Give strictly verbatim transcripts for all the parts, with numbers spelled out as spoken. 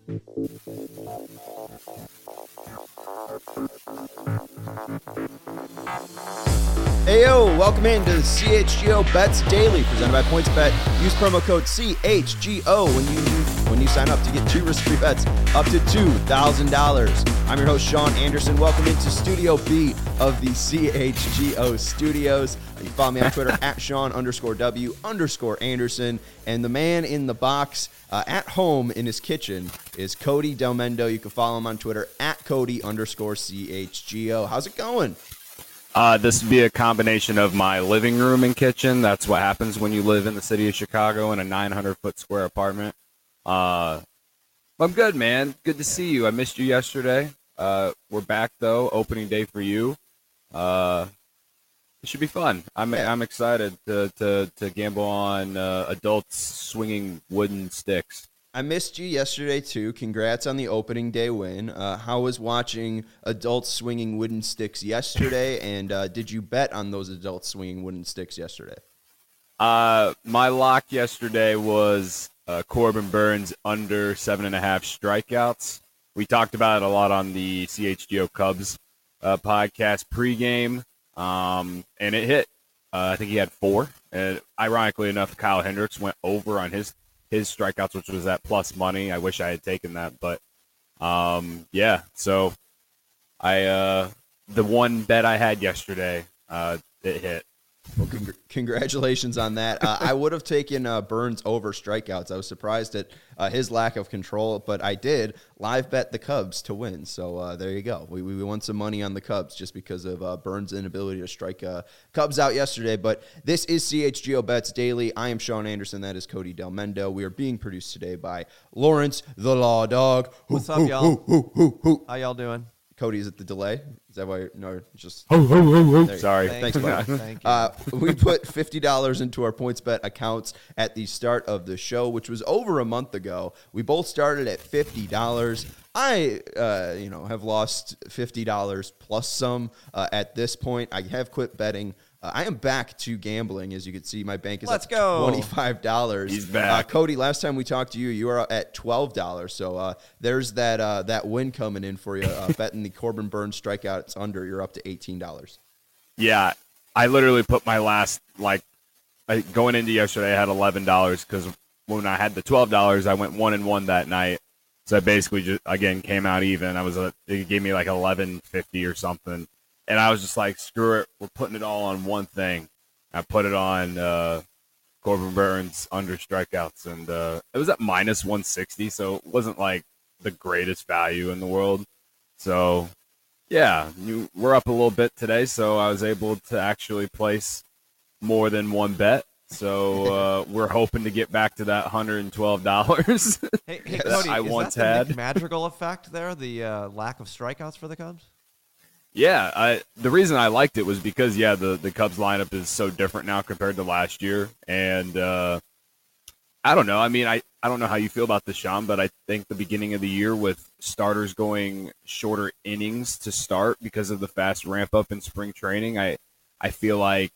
Hey yo, welcome in to the C H G O Bets Daily, presented by PointsBet. Use promo code C H G O when you when you sign up to get two risk-free bets up to two thousand dollars. I'm your host, Sean Anderson. Welcome into Studio B of the C H G O studios. You can follow me on Twitter at Sean underscore W underscore Anderson. And the man in the box uh, at home in his kitchen is Cody Delmendo. You can follow him on Twitter at Cody underscore C H G O. How's it going? Uh, this would be a combination of my living room and kitchen. That's what happens when you live in the city of Chicago in a nine hundred foot square apartment. Uh, I'm good, man. Good to see you. I missed you yesterday. Uh, we're back, though. Opening day for you. Uh, it should be fun. I'm Yeah. I'm excited to, to, to gamble on uh, adults swinging wooden sticks. I missed you yesterday, too. Congrats on the opening day win. Uh, how was watching adults swinging wooden sticks yesterday, and uh, did you bet on those adults swinging wooden sticks yesterday? Uh, my lock yesterday was uh, Corbin Burnes under seven and a half strikeouts. We talked about it a lot on the C H G O Cubs uh, podcast pregame, um, and it hit. Uh, I think he had four. And ironically enough, Kyle Hendricks went over on his his strikeouts, which was at plus money. I wish I had taken that, but um, yeah. So I uh, the one bet I had yesterday, uh, it hit. Well, congr- congratulations on that. Uh, I would have taken uh, Burnes over strikeouts. I was surprised at uh, his lack of control, but I did live bet the Cubs to win. So uh, there you go. We, we won some money on the Cubs just because of uh, Burnes' inability to strike uh, Cubs out yesterday. But this is C H G O Bets Daily. I am Sean Anderson. That is Cody Delmendo. We are being produced today by Lawrence the Law Dog. What's up, y'all? Hoo, hoo, hoo. How y'all doing? Cody, is it the delay? Is that why you're no, just Ho, ho, ho, ho. There you Sorry. go. Thank Thanks, you. buddy. Thank you. Uh, we put fifty dollars into our PointsBet accounts at the start of the show, which was over a month ago. We both started at fifty dollars. I, uh, you know, have lost fifty dollars plus some uh, at this point. I have quit betting. Uh, I am back to gambling. As you can see, my bank is Let's at go. twenty-five dollars. He's back. Uh, Cody, last time we talked to you, you were at twelve dollars. So uh, there's that uh, that win coming in for you. Uh, betting the Corbin Burnes strikeouts under, you're up to eighteen dollars. Yeah, I literally put my last, like, I, going into yesterday, I had eleven dollars because when I had the twelve dollars, I went one and one that night. So I basically just, again, came out even. I was, a, it gave me like eleven fifty or something. And I was just like, screw it, we're putting it all on one thing. I put it on uh, Corbin Burnes under strikeouts, and uh, it was at minus one sixty, so it wasn't like the greatest value in the world. So, yeah, you, we're up a little bit today, so I was able to actually place more than one bet. So uh, we're hoping to get back to that one hundred twelve dollars Hey, hey that Cody, I is once that the had. Nick Madrigal effect there? The uh, lack of strikeouts for the Cubs? Yeah, I, the reason I liked it was because, yeah, the, the Cubs lineup is so different now compared to last year. And uh, I don't know. I mean, I, I don't know how you feel about this, Sean, but I think the beginning of the year with starters going shorter innings to start because of the fast ramp up in spring training, I I feel like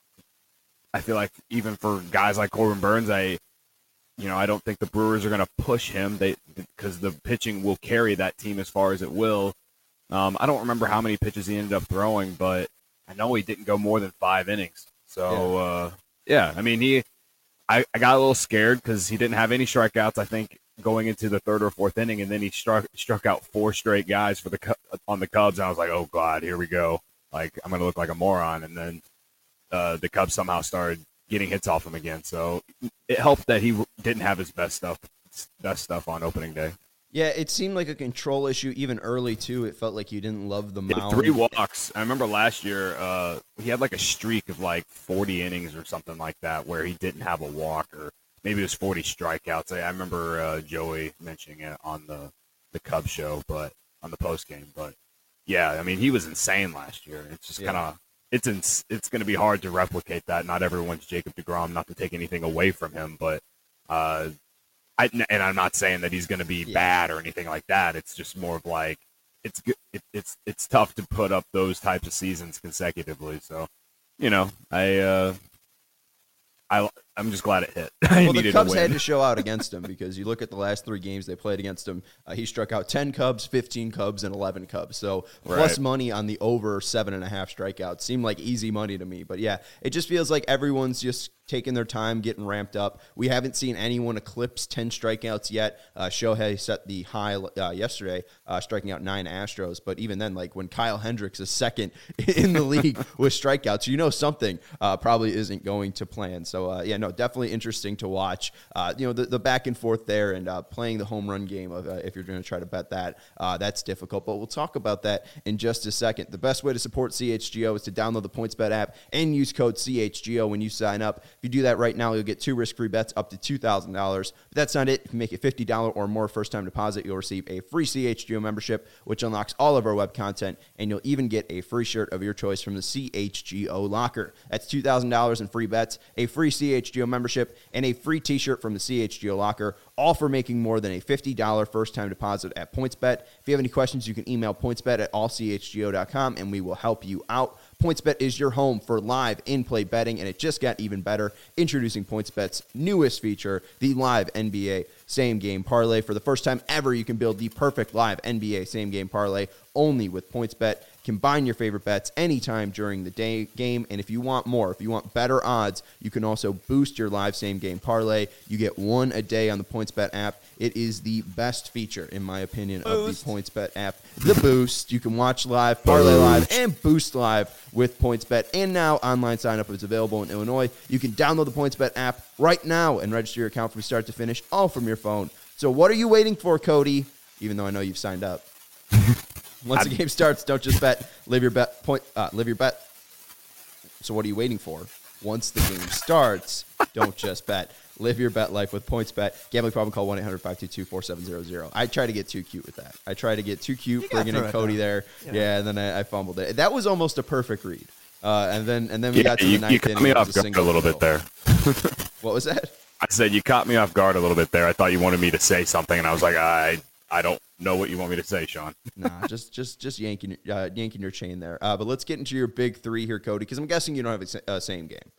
I feel like even for guys like Corbin Burnes, I you know, I don't think the Brewers are going to push him they because the pitching will carry that team as far as it will. Um, I don't remember how many pitches he ended up throwing, but I know he didn't go more than five innings. So, yeah, uh, yeah I mean, he, I, I got a little scared because he didn't have any strikeouts, I think, going into the third or fourth inning, and then he struck struck out four straight guys for the on the Cubs. And I was like, oh, God, here we go. Like, I'm going to look like a moron. And then uh, the Cubs somehow started getting hits off him again. So it helped that he didn't have his best stuff, best stuff on opening day. Yeah, it seemed like a control issue even early, too. It felt like you didn't love the mound. Three walks. I remember last year uh, he had like a streak of like forty innings or something like that where he didn't have a walk, or maybe it was forty strikeouts. I, I remember uh, Joey mentioning it on the, the Cubs show, but on the post game. But, yeah, I mean, he was insane last year. It's just Yeah. kind of it's ins- it's going to be hard to replicate that. Not everyone's Jacob deGrom, not to take anything away from him, but uh, – I, and I'm not saying that he's going to be Yeah. bad or anything like that. It's just more of like it's good. It, it's it's tough to put up those types of seasons consecutively. So, you know, I uh, I I'm just glad it hit. I Well, the needed Cubs a win. had to show out against him because you look at the last three games they played against him. Uh, he struck out ten Cubs, fifteen Cubs, and eleven Cubs. So plus Right. money on the over seven and a half strikeouts seemed like easy money to me. But yeah, it just feels like everyone's just taking their time, getting ramped up. We haven't seen anyone eclipse ten strikeouts yet. Uh, Shohei set the high uh, yesterday, uh, striking out nine Astros. But even then, like when Kyle Hendricks is second in the league with strikeouts, you know something uh, probably isn't going to plan. So uh, yeah, no, definitely interesting to watch. Uh, you know, the, the back and forth there and uh, playing the home run game of uh, if you're going to try to bet that, uh, that's difficult. But we'll talk about that in just a second. The best way to support C H G O is to download the PointsBet app and use code C H G O when you sign up. If you do that right now, you'll get two risk-free bets up to two thousand dollars. But that's not it. If you make a fifty dollars or more first-time deposit, you'll receive a free C H G O membership, which unlocks all of our web content, and you'll even get a free shirt of your choice from the C H G O locker. That's two thousand dollars in free bets, a free C H G O membership, and a free t-shirt from the C H G O locker, all for making more than a fifty dollars first-time deposit at PointsBet. If you have any questions, you can email pointsbet at all c h g o dot com, and we will help you out. PointsBet is your home for live in-play betting, and it just got even better. Introducing PointsBet's newest feature, the live N B A same-game parlay. For the first time ever, you can build the perfect live N B A same-game parlay only with PointsBet. Combine your favorite bets anytime during the day game, and if you want more, if you want better odds, you can also boost your live same-game parlay. You get one a day on the PointsBet app. It is the best feature, in my opinion, Boost. of the PointsBet app. The Boost. You can watch live, parlay live, and boost live with PointsBet. And now online sign-up is available in Illinois. You can download the PointsBet app right now and register your account from start to finish, all from your phone. So what are you waiting for, Cody? Even though I know you've signed up. Once the game starts, don't just bet. Live your bet. Point. Uh, live your bet. So what are you waiting for? Once the game starts, don't just bet. Live your bet life with PointsBet. Gambling problem? Call one eight hundred five two two four seven zero zero. I try to get too cute with that. I try to get too cute, You gotta bringing throw in it Cody down. there. You know. Yeah, and then I, I fumbled it. That was almost a perfect read. Uh, and then and then we Yeah, got to the you, ninth you caught inning. me it was off guard a single little bit goal. there. What was that? I said you caught me off guard a little bit there. I thought you wanted me to say something, and I was like, I I don't know what you want me to say, Sean. Nah, just just just yanking uh, yanking your chain there. Uh, but let's get into your big three here, Cody, because I'm guessing you don't have a sa- uh, same game.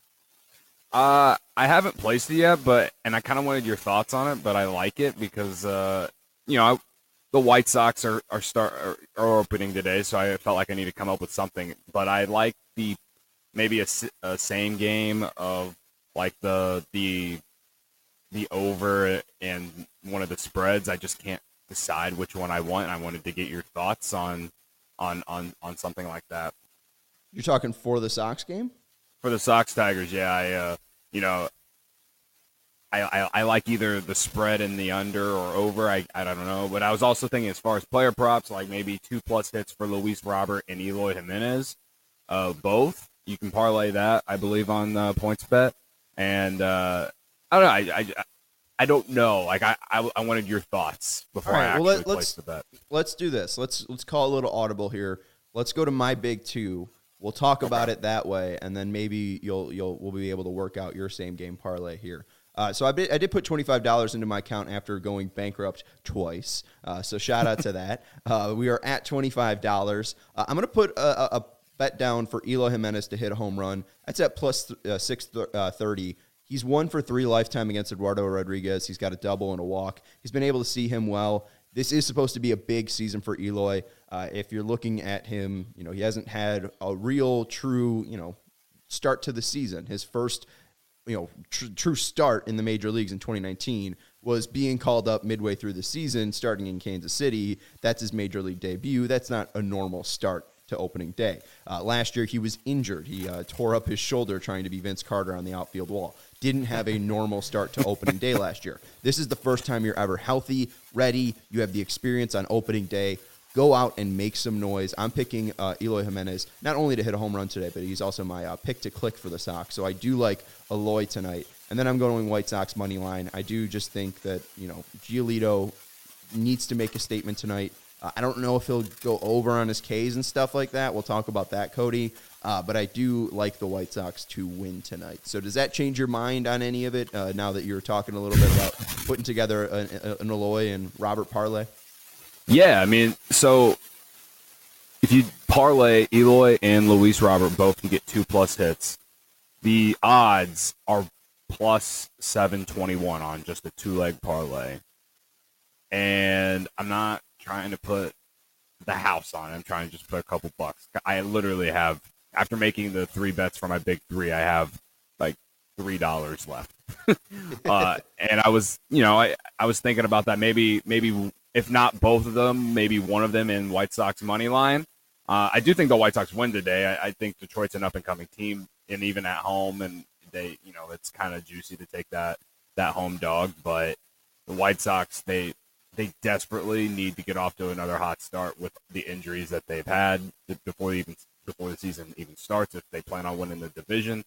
Uh, I haven't placed it yet, but and I kind of wanted your thoughts on it, but I like it because uh, you know, I, the White Sox are are start are, are opening today, so I felt like I need to come up with something. But I like the maybe a, s- a same game of like the the the over and one of the spreads. I just can't decide which one I want. And I wanted to get your thoughts on on on on something like that. You're talking for the Sox game? For the Sox Tigers, yeah, I uh, you know, I, I I like either the spread and the under or over. I I don't know, but I was also thinking as far as player props, like maybe two plus hits for Luis Robert and Eloy Jimenez, uh, both. You can parlay that, I believe, on uh, PointsBet, and uh, I don't know. I, I I don't know. Like I, I I wanted your thoughts before All I right, actually well, let- placed let's- the bet. Let's do this. Let's let's call a little audible here. Let's go to my big two. We'll talk about it that way, and then maybe you'll you'll we'll be able to work out your same game parlay here. Uh, so I did, I did put twenty-five dollars into my account after going bankrupt twice. Uh, so shout out to that. Uh, we are at twenty-five dollars. Uh, I'm going to put a, a, a bet down for Eloy Jimenez to hit a home run. That's at plus th- uh, six thirty. He's one for three lifetime against Eduardo Rodriguez. He's got a double and a walk. He's been able to see him well. This is supposed to be a big season for Eloy. Uh, if you're looking at him, you know, he hasn't had a real, true, you know, start to the season. His first, you know, tr- true start in the major leagues in twenty nineteen was being called up midway through the season, starting in Kansas City. That's his major league debut. That's not a normal start to opening day. Uh, last year, he was injured. He uh, tore up his shoulder trying to be Vince Carter on the outfield wall. Didn't have a normal start to opening day last year. This is the first time you're ever healthy, ready. You have the experience on opening day. Go out and make some noise. I'm picking uh, Eloy Jimenez not only to hit a home run today, but he's also my uh, pick to click for the Sox. So I do like Eloy tonight. And then I'm going White Sox money line. I do just think that, you know, Giolito needs to make a statement tonight. Uh, I don't know if he'll go over on his Ks and stuff like that. We'll talk about that, Cody. Uh, but I do like the White Sox to win tonight. So does that change your mind on any of it uh, now that you're talking a little bit about putting together an, an Eloy and Robert parlay? Yeah, I mean, so if you parlay Eloy and Luis Robert both can get two plus hits, the odds are plus seven twenty-one on just a two-leg parlay. And I'm not trying to put the house on it. I'm trying to just put a couple bucks. I literally have, after making the three bets for my big three, I have like three dollars left. uh, and I was, you know, I, I was thinking about that. Maybe, maybe if not both of them, maybe one of them in White Sox money line. Uh, I do think the White Sox win today. I, I think Detroit's an up-and-coming team, and even at home, and they, you know, it's kind of juicy to take that that home dog. But the White Sox, they they desperately need to get off to another hot start with the injuries that they've had before even before the season even starts. If they plan on winning the division,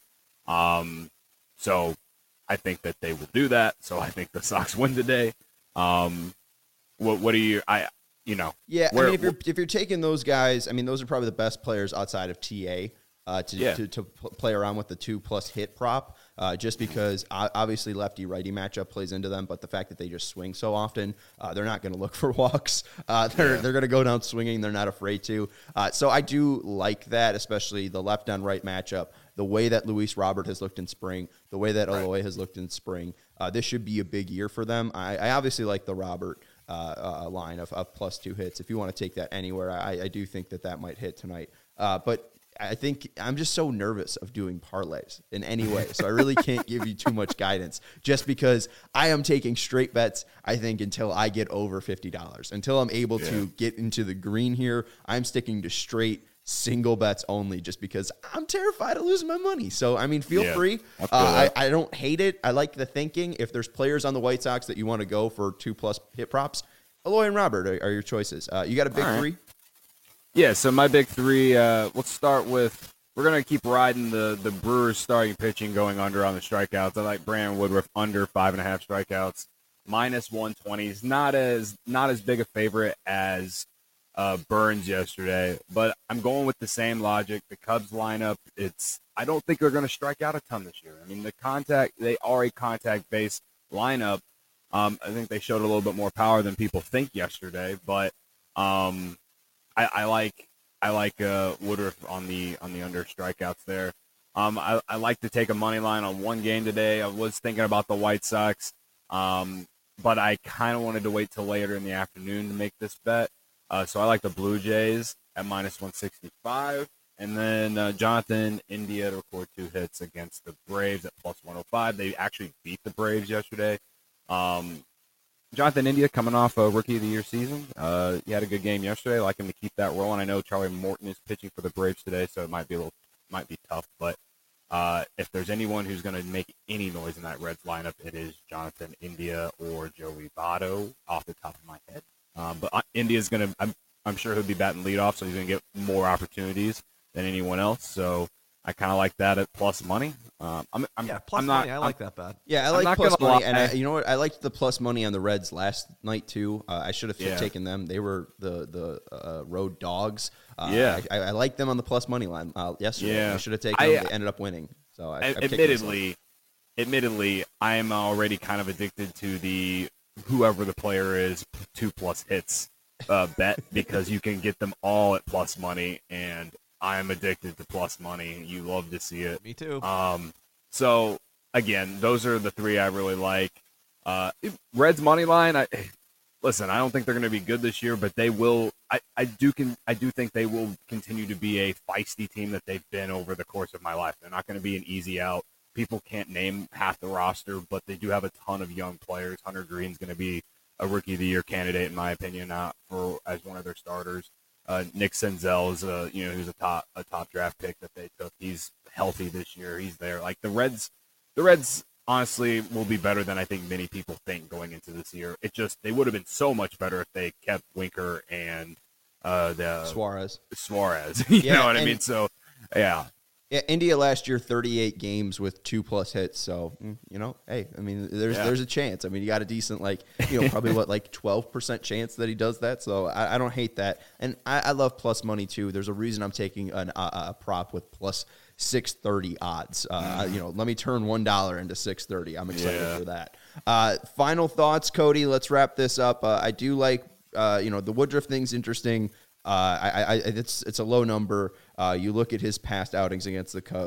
um, so I think that they will do that. So I think the Sox win today. Um, what what do you I? You know, yeah. Where, I mean, if you're if you're taking those guys, I mean, those are probably the best players outside of T A uh, to, yeah. to to play around with the two plus hit prop. Uh, just because obviously lefty righty matchup plays into them, but the fact that they just swing so often, uh, they're not going to look for walks. Uh, they're yeah. they're going to go down swinging. They're not afraid to. Uh, so I do like that, especially the left on right matchup. The way that Luis Robert has looked in spring, the way that right. Eloy has looked in spring, uh, this should be a big year for them. I, I obviously like the Robert uh, uh, line of, of plus two hits. If you want to take that anywhere, I, I do think that that might hit tonight. Uh, but I think I'm just so nervous of doing parlays in any way. So I really can't give you too much guidance just because I am taking straight bets, I think, until I get over fifty dollars. Until I'm able yeah. to get into the green here, I'm sticking to straight single bets only just because I'm terrified of losing my money. So, I mean, feel yeah, free. I, uh, I, I don't hate it. I like the thinking. If there's players on the White Sox that you want to go for two plus hit props, Eloy and Robert are, are your choices. Uh, you got a big right. three? Yeah, so my big three, uh, let's start with, we're going to keep riding the, the Brewers starting pitching going under on the strikeouts. I like Brandon Woodruff under five and a half strikeouts, minus one twenty. He's not as, not as big a favorite as uh, Burns yesterday, but I'm going with the same logic. The Cubs lineup, it's, I don't think they're going to strike out a ton this year. I mean, the contact, they are a contact-based lineup. Um, I think they showed a little bit more power than people think yesterday, but um, I, I like I like uh, Woodruff on the on the under strikeouts there. Um, I, I like to take a money line on one game today. I was thinking about the White Sox, um, but I kind of wanted to wait till later in the afternoon to make this bet. Uh, so I like the Blue Jays at minus one sixty-five, and then uh, Jonathan India to record two hits against the Braves at plus one oh five. They actually beat the Braves yesterday. Um, Jonathan India coming off a Rookie of the Year season. Uh, he had a good game yesterday. I like him to keep that rolling. I know Charlie Morton is pitching for the Braves today, so it might be a little, might be tough. But uh, if there's anyone who's going to make any noise in that Reds lineup, it is Jonathan India or Joey Votto off the top of my head. Um, but India's going to, I'm, I'm sure he'll be batting leadoff, so he's going to get more opportunities than anyone else. So I kind of like that at plus money. Um, I'm, I'm, Yeah, plus I'm not, money. I like that bet. Yeah, I I'm like not plus gonna money, lie. and I, you know what? I liked the plus money on the Reds last night too. Uh, I should have Yeah. taken them. They were the the uh, road dogs. Uh, Yeah. I, I like them on the plus money line uh, yesterday. Yeah. I should have taken I- them. They ended up winning. So I, I kicked admittedly, admittedly, I am already kind of addicted to the whoever the player is two plus hits uh, bet because you can get them all at plus money, and I am addicted to plus money. You love to see it. Me too. Um, so again, those are the three I really like. Uh, Reds money line. I listen. I don't think they're going to be good this year, but they will. I, I do can. I do think they will continue to be a feisty team that they've been over the course of my life. They're not going to be an easy out. People can't name half the roster, but they do have a ton of young players. Hunter Green's going to be a Rookie of the Year candidate, in my opinion, not for as one of their starters. Uh, Nick Senzel is a you know who's a top a top draft pick that they took. He's healthy this year. He's there. Like the Reds, the Reds honestly will be better than I think many people think going into this year. It just they would have been so much better if they kept Winker and uh, the Suarez. Suarez. you Yeah, know what I and- mean? So yeah, Yeah, India last year, thirty-eight games with two plus hits. So, mm, you know, hey, I mean, there's Yeah. there's a chance. I mean, you got a decent, like, you know, probably what, like twelve percent chance that he does that. So I, I don't hate that. And I, I love plus money, too. There's a reason I'm taking an, a, a prop with plus six thirty odds. Uh, You know, let me turn one dollar into six thirty. I'm excited Yeah. for that. Uh, final thoughts, Cody. Let's wrap this up. Uh, I do like, uh, you know, the Woodruff thing's interesting. Uh, I, I, it's it's a low number. Uh, you look at his past outings against the Cubs.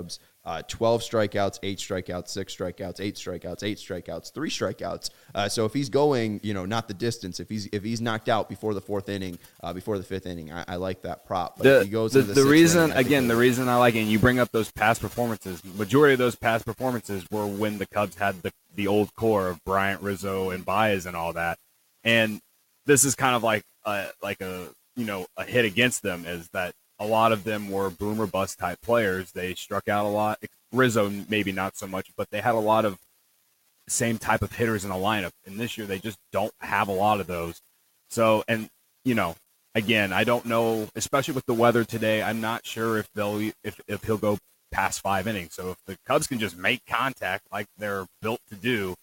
uh, twelve strikeouts, eight strikeouts, six strikeouts, eight strikeouts, eight strikeouts, three strikeouts. Uh, so if he's going, you know, not the distance, if he's if he's knocked out before the fourth inning, uh, before the fifth inning, I, I like that prop. But the, if he goes the, into the, the reason, inning, again, the reason I like it, and you bring up those past performances, majority of those past performances were when the Cubs had the, the old core of Bryant, Rizzo, and Baez and all that. And this is kind of like a, like a, you know, a hit against them is that a lot of them were boom or bust type players. They struck out a lot. Rizzo, maybe not so much, but they had a lot of same type of hitters in the lineup. And this year they just don't have a lot of those. So, and, you know, again, I don't know, especially with the weather today, I'm not sure if they'll, if, if he'll go past five innings. So if the Cubs can just make contact like they're built to do,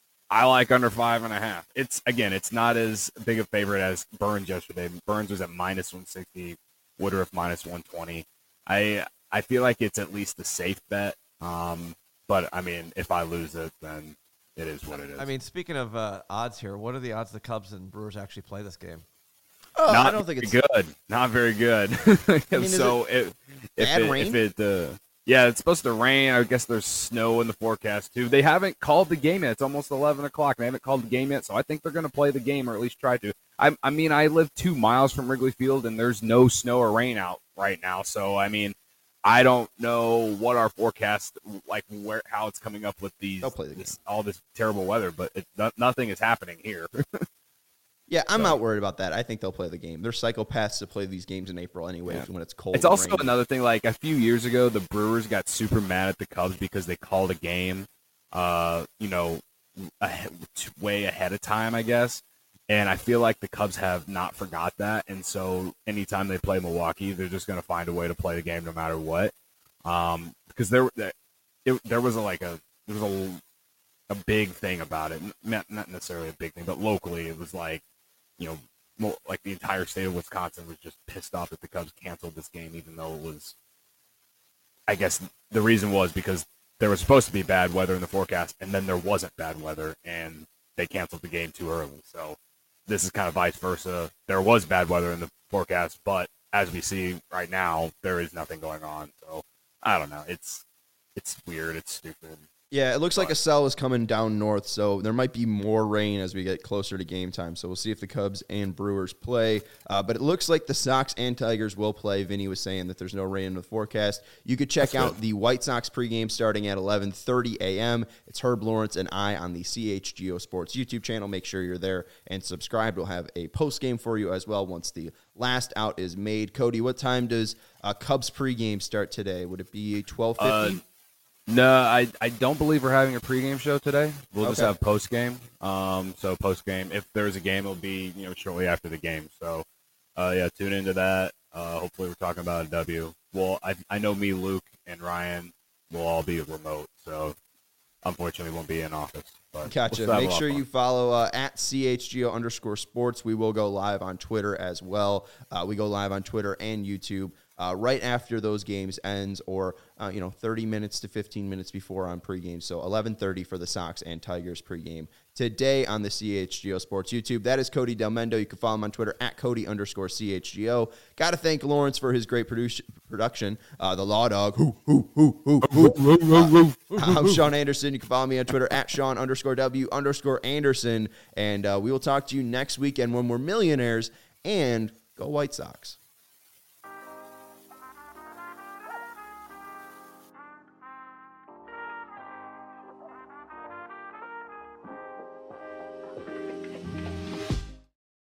I like under five and a half. It's, again, it's not as big a favorite as Burns yesterday. Burns was at minus one sixty, Woodruff minus one twenty. I I feel like it's at least a safe bet. Um, but, I mean, if I lose it, then it is what it is. I mean, speaking of uh, odds here, what are the odds the Cubs and Brewers actually play this game? Oh, not I don't think it's good. Not very good. I mean, so it it, if bad it, rain? if it, uh, yeah, it's supposed to rain. I guess there's snow in the forecast too. They haven't called the game yet. It's almost eleven o'clock. They haven't called the game yet, so I think they're going to play the game or at least try to. I, I mean, I live two miles from Wrigley Field, and there's no snow or rain out right now. So I mean, I don't know what our forecast like, where how it's coming up with these They'll play the this, all this terrible weather, but it, no, nothing is happening here. Yeah, I'm So- not worried about that. I think they'll play the game. They're psychopaths to play these games in April anyway Yeah. when it's cold. It's and also rainy. another thing, like a few years ago, the Brewers got super mad at the Cubs because they called a game, uh, you know, ahe- way ahead of time, I guess. And I feel like the Cubs have not forgot that. And so anytime they play Milwaukee, they're just going to find a way to play the game no matter what. Um, because there, it, there was a, like a, there was a, a big thing about it. Not, not necessarily a big thing, but locally it was like, you know, mo- like the entire state of Wisconsin was just pissed off that the Cubs canceled this game, even though it was, I guess the reason was because there was supposed to be bad weather in the forecast, and then there wasn't bad weather, and they canceled the game too early. So this is kind of vice versa. There was bad weather in the forecast, but as we see right now, there is nothing going on. So I don't know. It's it's weird. It's stupid. Yeah, it looks like a cell is coming down north, so there might be more rain as we get closer to game time. So we'll see if the Cubs and Brewers play. Uh, but it looks like the Sox and Tigers will play. Vinny was saying that there's no rain in the forecast. You could check That's out good. the White Sox pregame starting at eleven thirty a.m. It's Herb Lawrence and I on the C H G O Sports YouTube channel. Make sure you're there and subscribe. We'll have a postgame for you as well once the last out is made. Cody, what time does uh, Cubs pregame start today? Would it be twelve fifty? Uh, No, I, I don't believe we're having a pregame show today. We'll just Okay. have postgame. Um, so postgame, if there's a game, it'll be you know shortly after the game. So, uh, yeah, tune into that. Uh, hopefully, we're talking about a W. Well, I I know me, Luke, and Ryan will all be remote, so unfortunately, won't be in office. But Gotcha. we'll still have a Make lot sure of fun. you follow uh, at C H G O underscore sports. We will go live on Twitter as well. Uh, we go live on Twitter and YouTube uh, right after those games ends, or uh, you know, thirty minutes to fifteen minutes before on pregame. So eleven thirty for the Sox and Tigers pregame today on the C H G O Sports YouTube. That is Cody Del Mendo. You can follow him on Twitter at Cody underscore C H G O. Got to thank Lawrence for his great produ- production. Uh, the Law Dog. Hoo, hoo, hoo, hoo, hoo. Uh, I'm Sean Anderson. You can follow me on Twitter at Sean underscore W underscore Anderson. And uh, we will talk to you next weekend when we're millionaires. And go White Sox.